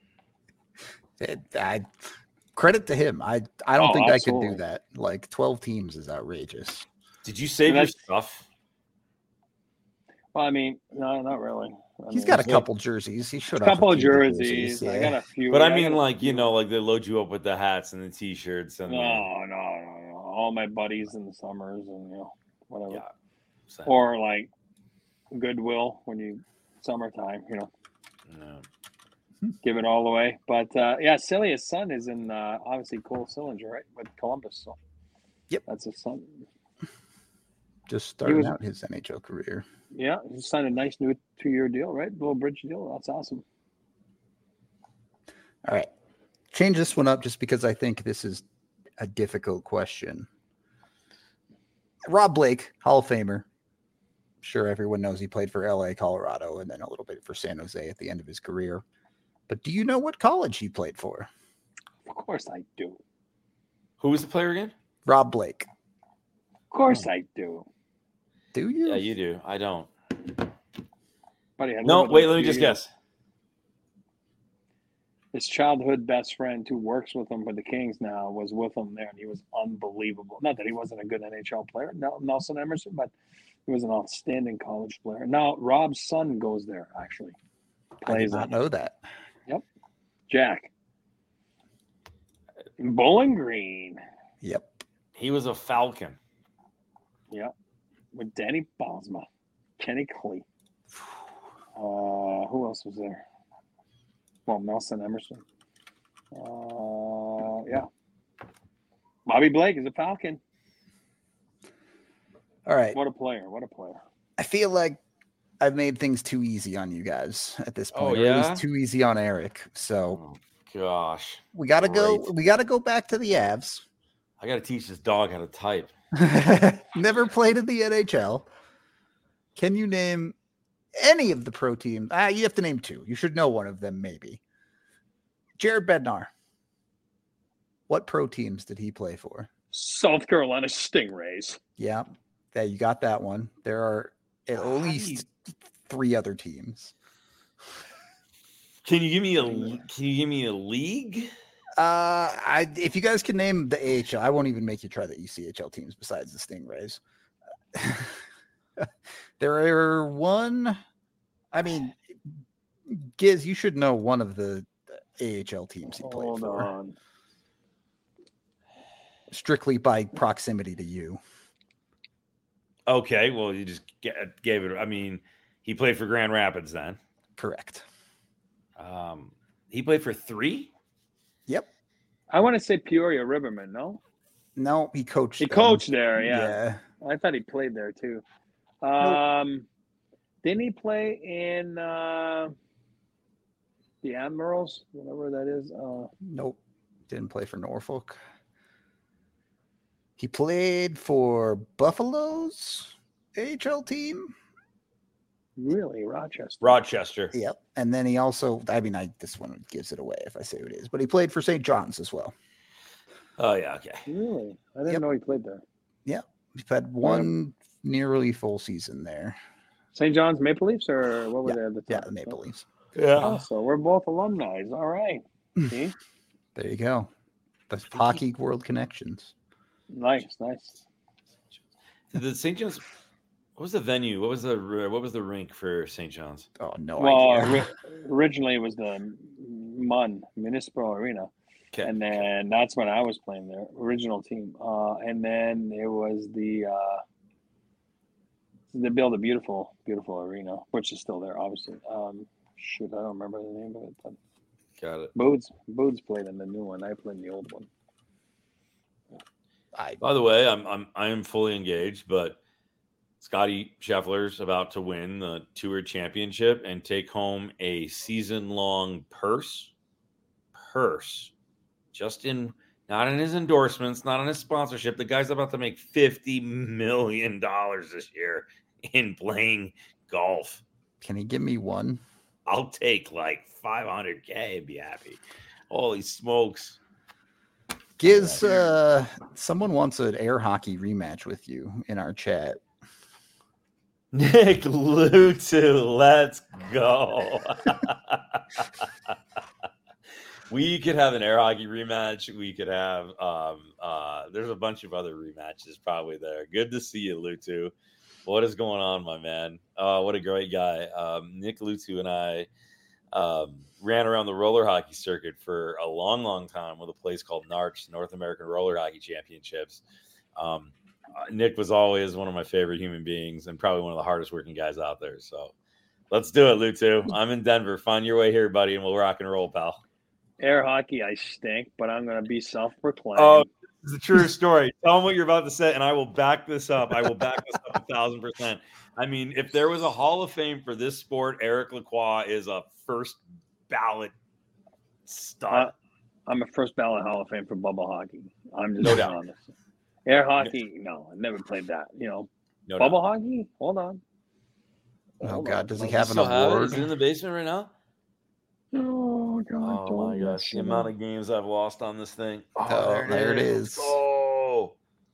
Credit to him. I don't think absolutely. I could do that. Like 12 teams is outrageous. Did you save your stuff? Well, I mean, no, not really. He's got a couple jerseys. He should a have couple of jerseys. Yeah. I got a few. But I mean, like, like they load you up with the hats and the t-shirts and no. All my buddies in the summers and whatever. Yeah. Or like Goodwill when you summertime, No. Give it all away. But Celia's son is in obviously Cole Sillinger, right, with Columbus. So yep, that's his son. Just starting out his NHL career. Yeah, he signed a nice new 2-year deal, right? Little bridge deal. That's awesome. All right, change this one up just because I think this is a difficult question. Rob Blake, Hall of Famer. Sure, everyone knows he played for LA, Colorado, and then a little bit for San Jose at the end of his career. But do you know what college he played for? Of course I do. Who was the player again? Rob Blake. Of course I do. Do you? Yeah, you do. I don't. Buddy, no, wait, let me just guess. His childhood best friend who works with him for the Kings now was with him there, and he was unbelievable. Not that he wasn't a good NHL player, Nelson Emerson, but he was an outstanding college player. Now, Rob's son goes there, actually. I did not know that. Yep. Jack. Bowling Green. Yep. He was a Falcon. Yep. With Danny Bosma. Kenny Clee. Who else was there? Well, Nelson Emerson. Yeah. Bobby Blake is a Falcon. All right. What a player. What a player. I feel like I've made things too easy on you guys at this point. Oh, yeah? Or at least too easy on Eric. So gosh. We gotta go back to the Avs. I gotta teach this dog how to type. Never played in the NHL. Can you name any of the pro teams? You have to name two. You should know one of them, maybe. Jared Bednar. What pro teams did he play for? South Carolina Stingrays. Yeah, you got that one. There are at least 3 other teams. Can you give me a league? If you guys can name the AHL, I won't even make you try the ECHL teams besides the Stingrays. There are one. I mean, Giz, you should know one of the AHL teams he played for. On. Strictly by proximity to you. Okay, well, you just gave it. I mean, he played for Grand Rapids then. Correct. He played for 3? Yep. I want to say Peoria Riverman, no? No, he coached. He coached there, yeah. Yeah. I thought he played there too. Didn't he play in the Admirals, whatever that is? Nope. Didn't play for Norfolk. He played for Buffalo's AHL team. Really, Rochester. Rochester. Yep. And then he also, this one gives it away if I say who it is, but he played for St. John's as well. Oh, yeah. Okay. Really? I didn't know he played there. Yeah. We've had one nearly full season there. St. John's Maple Leafs, or what were they at the time? Yeah, the Maple Leafs. Oh, so we're both alumni. All right. See? There you go. That's Hockey World connections. Nice. The St. John's. What was the venue? What was the rink for St. John's? Oh, no Well, idea. originally it was the MUN, Municipal Arena. Okay. And then that's when I was playing there, original team. And then it was they built a beautiful arena, which is still there, obviously. I don't remember the name of it. But Got it. Boots played in the new one. I played in the old one. By the way, I am fully engaged, but Scotty Scheffler's about to win the Tour Championship and take home a season-long purse. Not in his endorsements, not in his sponsorship. The guy's about to make $50 million this year in playing golf. Can he give me one? I'll take like $500K and be happy. Holy smokes. Giz, someone wants an air hockey rematch with you in our chat. Nick Lutu, let's go. We could have an air hockey rematch. We could have there's a bunch of other rematches probably there. Good to see you, Lutu. What is going on, my man? What a great guy. Nick Lutu and I ran around the roller hockey circuit for a long time with a place called NARCH, North American Roller Hockey Championships. Nick was always one of my favorite human beings and probably one of the hardest working guys out there. So let's do it, Lutu. I'm in Denver. Find your way here, buddy, and we'll rock and roll, pal. Air hockey, I stink, but I'm going to be self-proclaimed. Oh, it's a true story. Tell them what you're about to say, and I will back this up. I will back this up 1,000%. I mean, if there was a Hall of Fame for this sport, Eric Lacroix is a first ballot stud. I'm a first ballot Hall of Fame for bubble hockey. I'm just No doubt. honest. Air hockey, no, I never played that. No bubble doubt. hockey? Hold on. Oh, God. Does he You have an still have it? award? Is it in the basement right now? Oh, God. Oh, my gosh. The amount of games I've lost on this thing. Oh, there it is. Oh,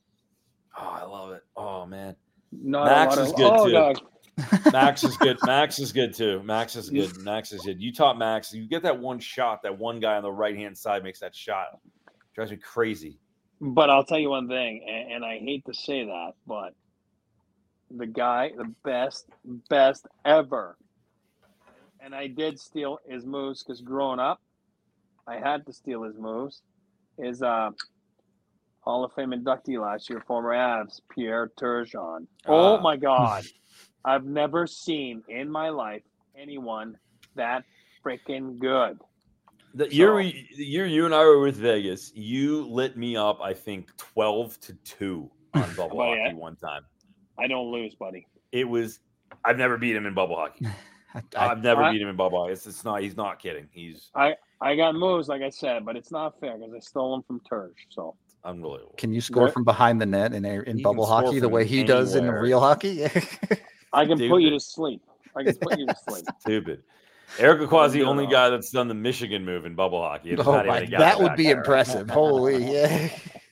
I love it. Oh, man. Not Max is good, too. God. Max is good. Max is good, too. Max is good. You taught Max. You get that one shot, that one guy on the right-hand side makes that shot. Drives me crazy. But I'll tell you one thing, and I hate to say that, but the guy, the best ever, and I did steal his moves because growing up, I had to steal his moves, is Hall of Fame inductee last year, former Avs, Pierre Turgeon. Oh, my God. I've never seen in my life anyone that freaking good. The year you and I were with Vegas, you lit me up, I think, 12-2 on bubble hockey one time. I don't lose, buddy. I've never beat him in bubble hockey. I've never beat him in bubble hockey. He's not kidding. I got moves, like I said, but it's not fair because I stole them from Turge. So unbelievable. Can you score from behind the net in bubble hockey the way he does in real hockey? I can put you to sleep. Stupid. Eric Lacroix is the only guy that's done the Michigan move in bubble hockey. That would be impressive. Holy yeah.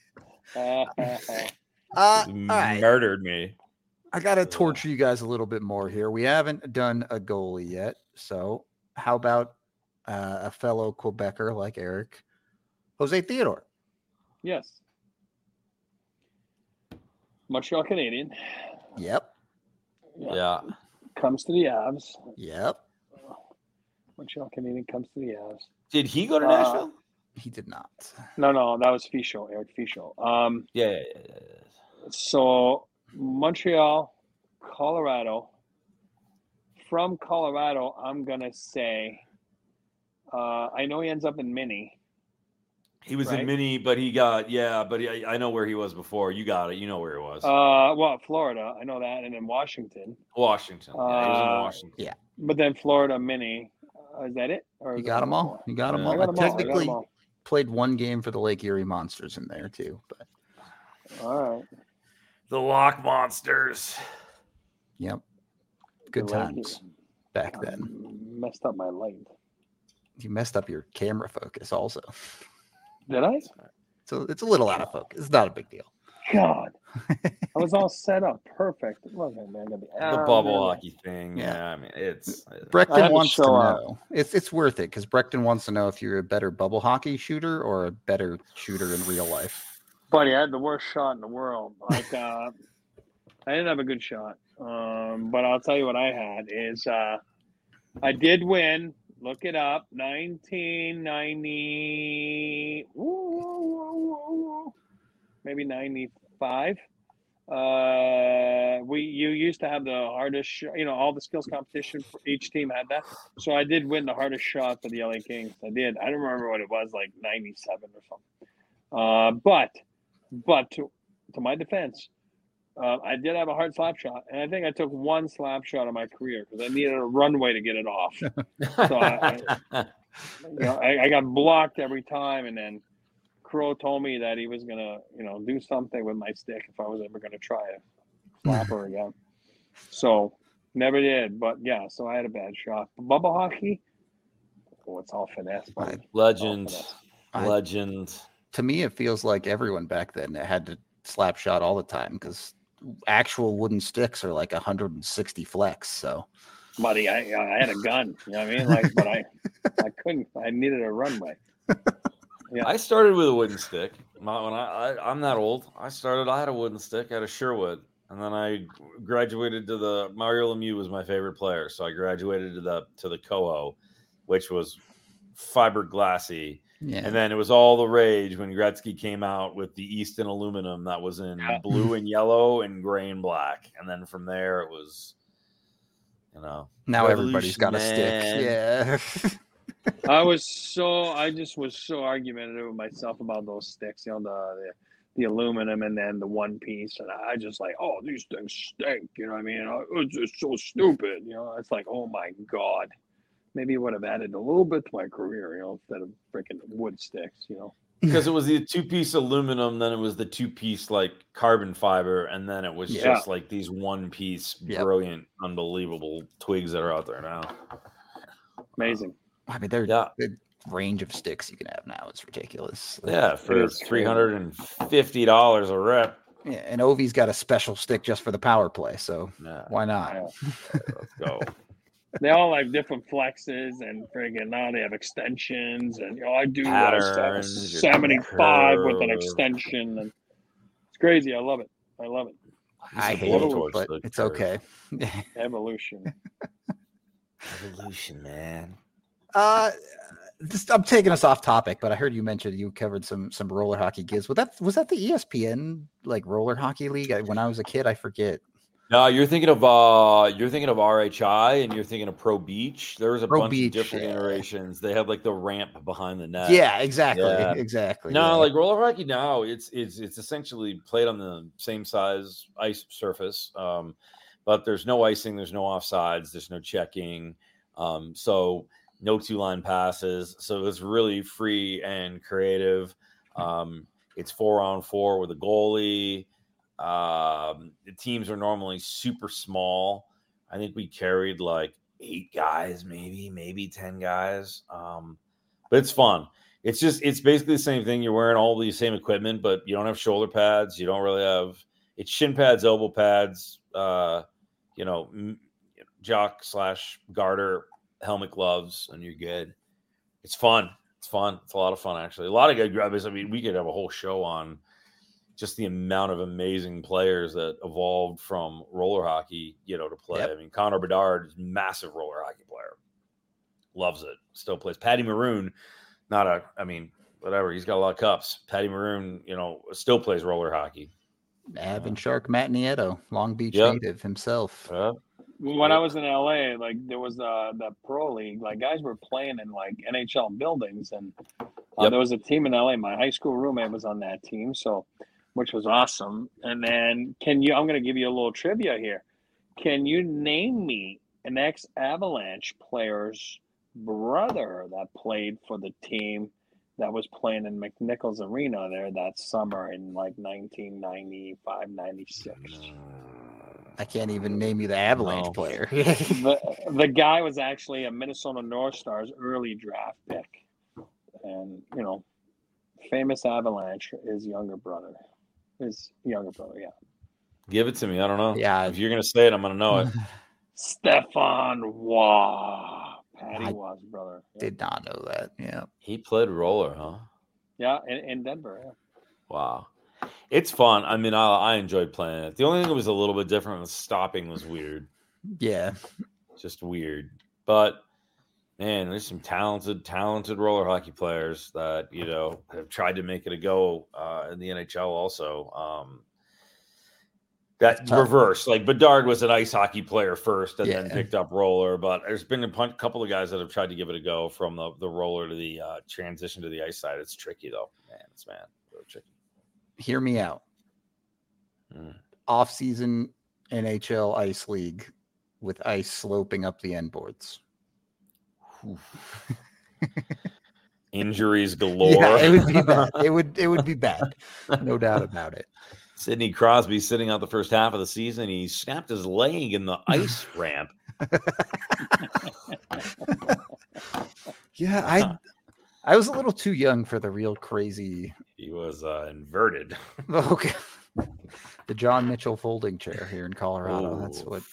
Murdered me. I got to torture you guys a little bit more here. We haven't done a goalie yet. So how about a fellow Quebecer like Eric, Jose Theodore? Yes. Montreal Canadian. Yep. Yeah. Comes to the Avs. Yep. Montreal Canadian comes to the Avs. Did he go to Nashville? He did not. No, that was Fischel, Eric Fischel. Yeah. So Montreal, Colorado. From Colorado, I'm gonna say. I know he ends up in Mini. He was in Mini, but he got I know where he was before. You got it. You know where he was. Well, Florida, I know that, and then Washington. Washington. Yeah, he was in Washington. Yeah. But then Florida, Mini. Is that it? Or You got them all. You got them all. I technically played one game for the Lake Erie Monsters in there too. But all right. The Lock Monsters. Yep. Good times back then. Messed up my light. You messed up your camera focus also. Did I? So it's a little out of focus. It's not a big deal. God. I was all set up. Perfect. It wasn't, man. The bubble hockey thing. Yeah. Yeah, I mean, it's I had Brecton to wants to show up. know. It's worth it because Brecton wants to know if you're a better bubble hockey shooter or a better shooter in real life. Buddy, I had the worst shot in the world. Like, I didn't have a good shot. But I'll tell you what I had is I did win. Look it up. 1990. Maybe 95. You used to have the hardest all the skills competition for each team had that. So I did win the hardest shot for the LA Kings. I did. I don't remember what it was, like 97 or something. But to my defense, I did have a hard slap shot, and I think I took one slap shot of my career because I needed a runway to get it off. So I got blocked every time, and then Crow told me that he was gonna, do something with my stick if I was ever gonna try a slapper again. So never did, but yeah. So I had a bad shot. Bubble hockey, it's all finesse. Buddy. Legend. To me, it feels like everyone back then had to slap shot all the time because actual wooden sticks are like 160 flex. So, buddy, I had a gun. You know what I mean? Like, but I couldn't. I needed a runway. Yeah. I started with a wooden stick. I'm that old. I had a wooden stick. I had a Sherwood, and then I graduated to the Mario Lemieux was my favorite player, so I graduated to the Koho, which was fiberglassy. yeah. And then it was all the rage when Gretzky came out with the Easton aluminum that was in blue and yellow and gray and black. And then from there it was, now everybody's got a stick. Yeah. I just was so argumentative with myself about those sticks, the aluminum and then the one piece. And I just like, oh, these things stink. You know what I mean? It's just so stupid. It's like, oh my God. Maybe it would have added a little bit to my career, instead of freaking wood sticks, Because it was the 2-piece aluminum, then it was the 2-piece like carbon fiber, and then it was just like these 1-piece brilliant, unbelievable twigs that are out there now. Amazing. I mean, the range of sticks you can have now is ridiculous. Yeah, for $350 a rep. Yeah, and Ovi's got a special stick just for the power play, so why not? Yeah. Let's go. They all have different flexes and friggin' now they have extensions and I do Patterns, 75 with an extension and it's crazy. I love it. I hate it, but it's okay. Evolution, man. I'm taking us off topic, but I heard you mention you covered some roller hockey gigs. Was that the ESPN like roller hockey league? When I was a kid, I forget. No, you're thinking of RHI and you're thinking of Pro Beach. There was a bunch of different iterations. They had like the ramp behind the net. Yeah, exactly. No, like roller hockey now, it's essentially played on the same size ice surface, but there's no icing, there's no offsides, there's no checking, so no 2-line passes. So it's really free and creative. It's 4-on-4 with a goalie. The teams are normally super small. I think we carried like 8 guys, maybe 10 guys. But it's fun. It's basically the same thing. You're wearing all the same equipment, but you don't have shoulder pads. You don't really have it's shin pads, elbow pads, jock/garter, helmet, gloves, and you're good. It's fun. It's a lot of fun, actually. A lot of good grubs. I mean, we could have a whole show on just the amount of amazing players that evolved from roller hockey, to play. Yep. I mean, Connor Bedard is a massive roller hockey player. Loves it. Still plays. Patty Maroon, whatever. He's got a lot of cups. Patty Maroon, still plays roller hockey. Avon Shark Matt Nieto, Long Beach native himself. When I was in LA, like there was the pro league, like guys were playing in like NHL buildings, and there was a team in LA. My high school roommate was on that team, which was awesome. And then I'm going to give you a little trivia here. Can you name me an ex-Avalanche player's brother that played for the team that was playing in McNichols Arena there that summer in like 1995, 96? I can't even name you the Avalanche player. The guy was actually a Minnesota North Stars early draft pick. And, famous Avalanche, his younger brother. His younger brother, yeah. Give it to me. I don't know. Yeah. If you're gonna say it, I'm gonna know it. Stefan Waugh. Patty I Waugh's brother. Yeah, did not know that. Yeah. He played roller, huh? yeah, in Denver. Yeah. Wow. It's fun. I mean, I enjoyed playing it. The only thing that was a little bit different was stopping was weird. Yeah. Just weird. But man, there's some talented roller hockey players that, have tried to make it a go in the NHL also. That reverse, like Bedard was an ice hockey player first and then picked up roller, but there's been a couple of guys that have tried to give it a go from the roller to the transition to the ice side. It's tricky though, man. It's really tricky. Hear me out. Off-season NHL Ice League with ice sloping up the end boards. Injuries galore. Yeah, it would be bad. It would be bad. No doubt about it. Sidney Crosby sitting out the first half of the season. He snapped his leg in the ice ramp. Yeah, I was a little too young for the real crazy. He was inverted. Okay. The John Mitchell folding chair here in Colorado. Ooh. That's what.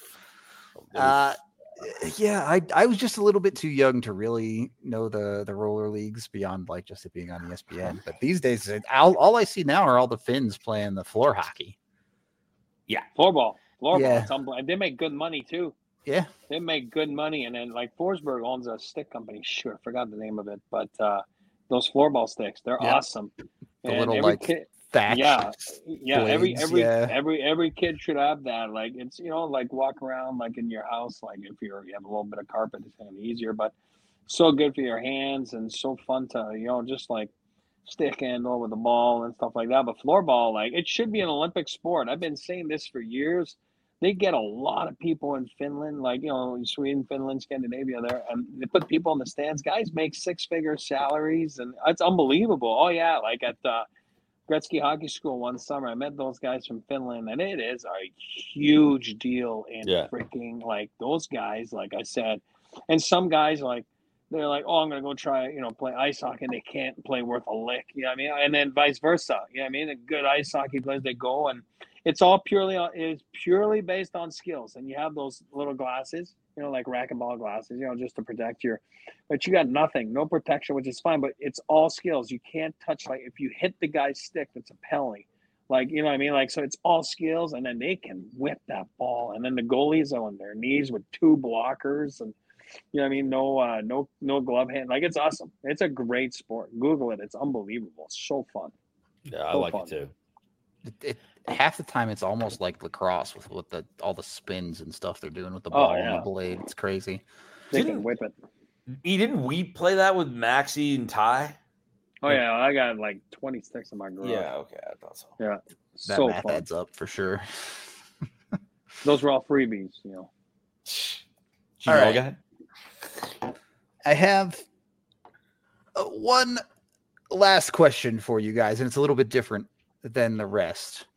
Yeah, I was just a little bit too young to really know the roller leagues beyond like just it being on ESPN. But these days, all I see now are all the Finns playing the floor hockey. Yeah, floorball. They make good money too. Yeah, they make good money. And then like Forsberg owns a stick company. Sure, I forgot the name of it, but those floorball sticks, they're awesome. The little like thatch. Yeah. Blades, every kid should have that. Like it's like walk around like in your house. Like if you have a little bit of carpet, it's kind of easier. But so good for your hands and so fun to just like stick handle with the ball and stuff like that. But floorball, like it should be an Olympic sport. I've been saying this for years. They get a lot of people in Finland, like Sweden, Finland, Scandinavia there, and they put people in the stands. Guys make 6-figure salaries, and it's unbelievable. Oh yeah, like at Gretzky Hockey School one summer, I met those guys from Finland, and it is a huge deal in freaking like those guys. Like I said, and some guys like they're like, oh, I'm gonna go try play ice hockey, and they can't play worth a lick. You know what I mean? And then vice versa. You know what I mean? The good ice hockey players, they go and it's all purely based on skills. And you have those little glasses, like racquetball glasses, just to protect but you got nothing, no protection, which is fine, but it's all skills. You can't touch, like if you hit the guy's stick, that's a penalty. Like, you know what I mean? Like, so it's all skills, and then they can whip that ball. And then the goalies are on their knees with 2 blockers and, you know what I mean? No glove hand. Like, it's awesome. It's a great sport. Google it. It's unbelievable. It's so fun. Yeah, I like it too. Half the time it's almost like lacrosse with all the spins and stuff they're doing with the ball and the blade. It's crazy. They can whip it. Didn't we play that with Maxie and Ty? Oh yeah, I got like 26 in my garage. Yeah, okay, I thought so. Yeah, that so math fun. Adds up for sure. Those were all freebies, All right. I have one last question for you guys, and it's a little bit different than the rest.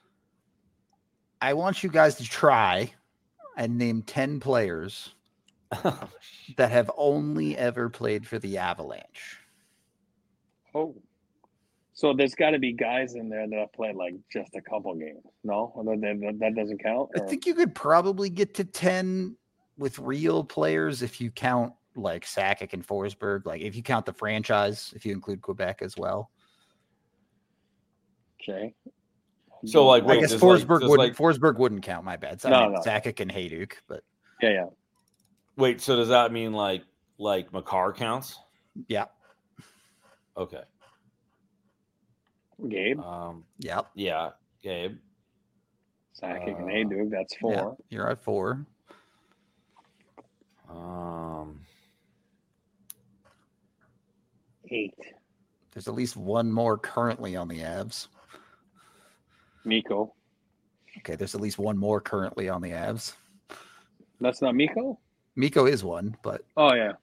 I want you guys to try and name 10 players that have only ever played for the Avalanche. Oh, so there's got to be guys in there that have played like just a couple games. No, that doesn't count. I think you could probably get to 10 with real players if you count like Sakic and Forsberg. Like if you count the franchise, if you include Quebec as well. Okay. So like, I guess Forsberg wouldn't count. My bad. So no. Sakic and Hayduk, but yeah. Wait, so does that mean like Makar counts? Yeah. Okay. Gabe. Yep. Yeah, Gabe. Sakic and Hayduk. That's 4. Yeah, you're at 4. 8. There's at least one more currently on the Avs. Mikko. Okay, there's at least one more currently on the Avs. That's not Mikko? Mikko is one, but... Oh, yeah.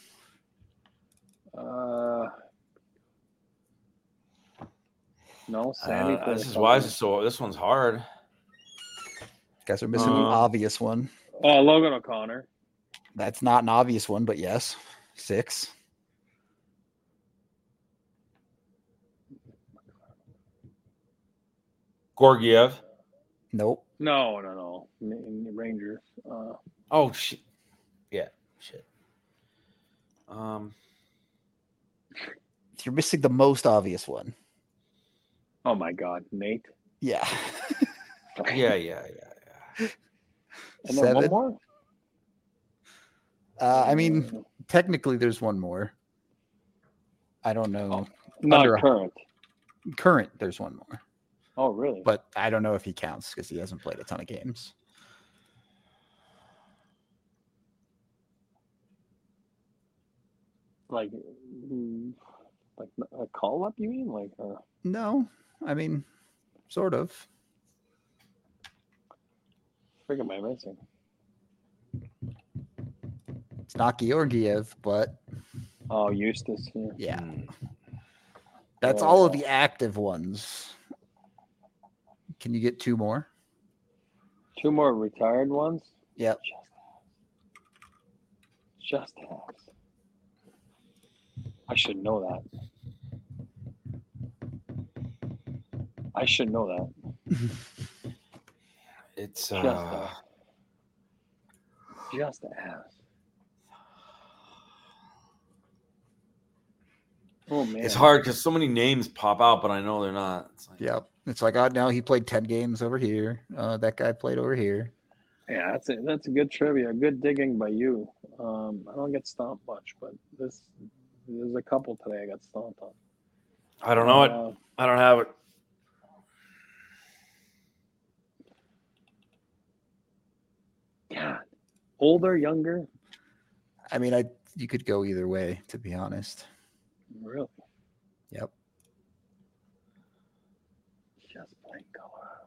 No, Sandy. This one's hard. You guys are missing an obvious one. Oh, Logan O'Connor. That's not an obvious one, but yes. 6. Gorgiev. Nope. No. Rangers. Oh shit. Yeah. Shit. You're missing the most obvious one. Oh my God, Nate. Yeah. Yeah. And then one 7. more. I mean, technically, there's one more. I don't know. Not under- current. Current, there's one more, Oh, really? but I don't know if he counts because he hasn't played a ton of games. Like a call up? You mean like? No, I mean, sort of. What am I missing? It's not Georgiev, but Oh, Eustace. yeah, Hmm. that's all of the active ones. Can you get 2 more? 2 more retired ones. Yep. Just has. I should know that. It's Just has. Oh man, it's hard because so many names pop out, but I know they're not. It's like, Yep. It's like, oh, now he played 10 games over here. That guy played over here. Yeah, that's a good trivia. Good digging by you. I don't get stomped much, but there's a couple today I got stomped on. I don't know it. I don't have it. God, older, younger, I mean, you could go either way, to be honest. really? Yep. Just playing Colorado.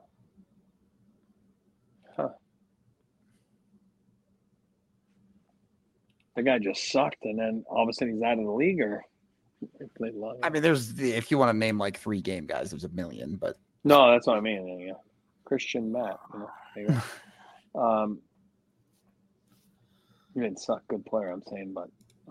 Huh. The guy just sucked, and then all of a sudden he's out of the league, or he played long. I mean, if you want to name like 3 game guys, there's a million, but No, that's what I mean. Yeah. Christian Matt. There you go. He didn't suck. Good player, I'm saying, but.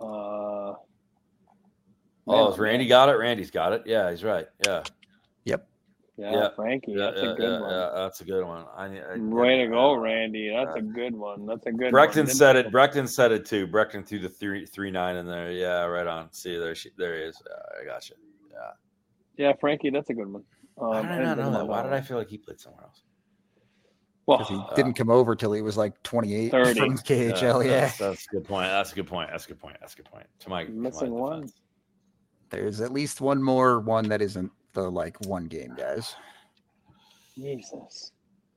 Has Randy got it? Randy's got it. Yeah, he's right. Yeah. yep. Yeah, Frankie. That's a good one. Yeah, that's a good one. Way to go, Randy. That's a good one. That's a good Brecton one. said it. Brecton said it too. Brecton threw the 3-9 in there. Yeah, right on. See, there he is. I got you. Yeah. Yeah, Frankie, that's a good one. Why did I not know that? Why did I feel like he played somewhere else? Well, Because he didn't come over till he was like 28 30. from KHL. Yeah. That's a good point. That's a good point. To my missing one. defense. There's at least one more one that isn't the like 1 game guys. Jesus.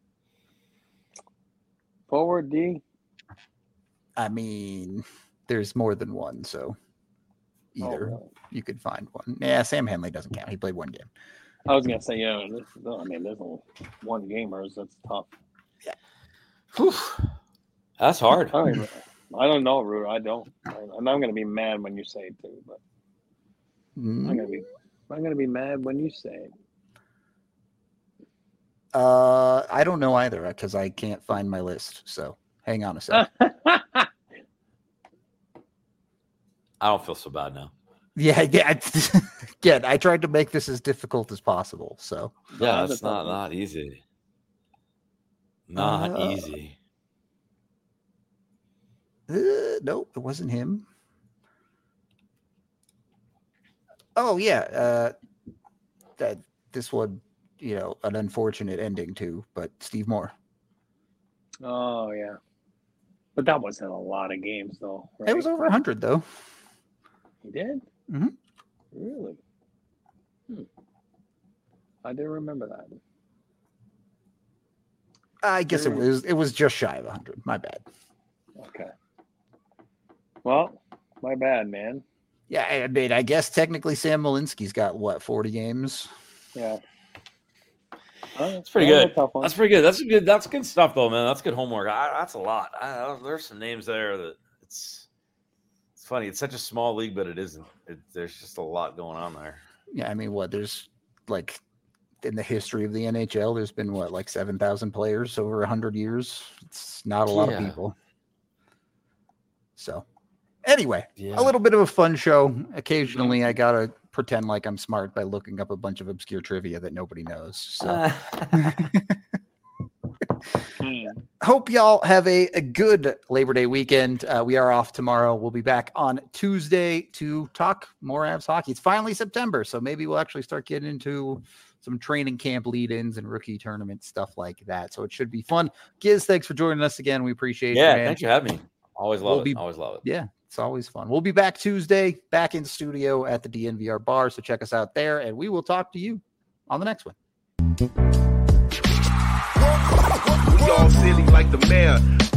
Forward D. I mean, there's more than one, so either really? you could find one. Yeah, Sam Henley doesn't count. He played 1 game. I was gonna say, yeah. There's only 1 gamers. That's tough. Whew. That's hard. I don't know, Rude. I don't. And I'm gonna be mad when you say it too. But I'm gonna be mad when you say it. I don't know either because I can't find my list. So hang on a sec. I don't feel so bad now. Yeah. Again, I tried to make this as difficult as possible. So Yeah, it's not easy. Not easy. Nope, it wasn't him. Oh yeah, that this one, an unfortunate ending too. But Steve Moore. Oh yeah, but that wasn't a lot of games though. Right? It was over 100 though. He did. Mhm. Really? I didn't remember that. I guess it was just shy of 100. My bad. Okay. Well, my bad, man. Yeah, I mean, I guess technically Sam Malinsky's got 40 games. Yeah. That's pretty good. That's pretty good. That's good stuff, though, man. That's good homework. That's a lot. There's some names there that it's funny. It's such a small league, but it isn't. There's just a lot going on there. Yeah, I mean, there's like in the history of the NHL, there's been 7,000 players over 100 years. It's not a lot of people. So Anyway, Yeah. a little bit of a fun show. Occasionally, I gotta pretend like I'm smart by looking up a bunch of obscure trivia that nobody knows. So, hope y'all have a good Labor Day weekend. We are off tomorrow. We'll be back on Tuesday to talk more Avs hockey. It's finally September, so maybe we'll actually start getting into some training camp lead-ins and rookie tournament stuff like that. So it should be fun. Giz, thanks for joining us again. We appreciate it. Yeah, man. thanks for having me. Always love We'll it. be- Always love it. Yeah, it's always fun. We'll be back Tuesday, back in studio at the DNVR bar. So check us out there, and we will talk to you on the next one. We all silly like the mayor.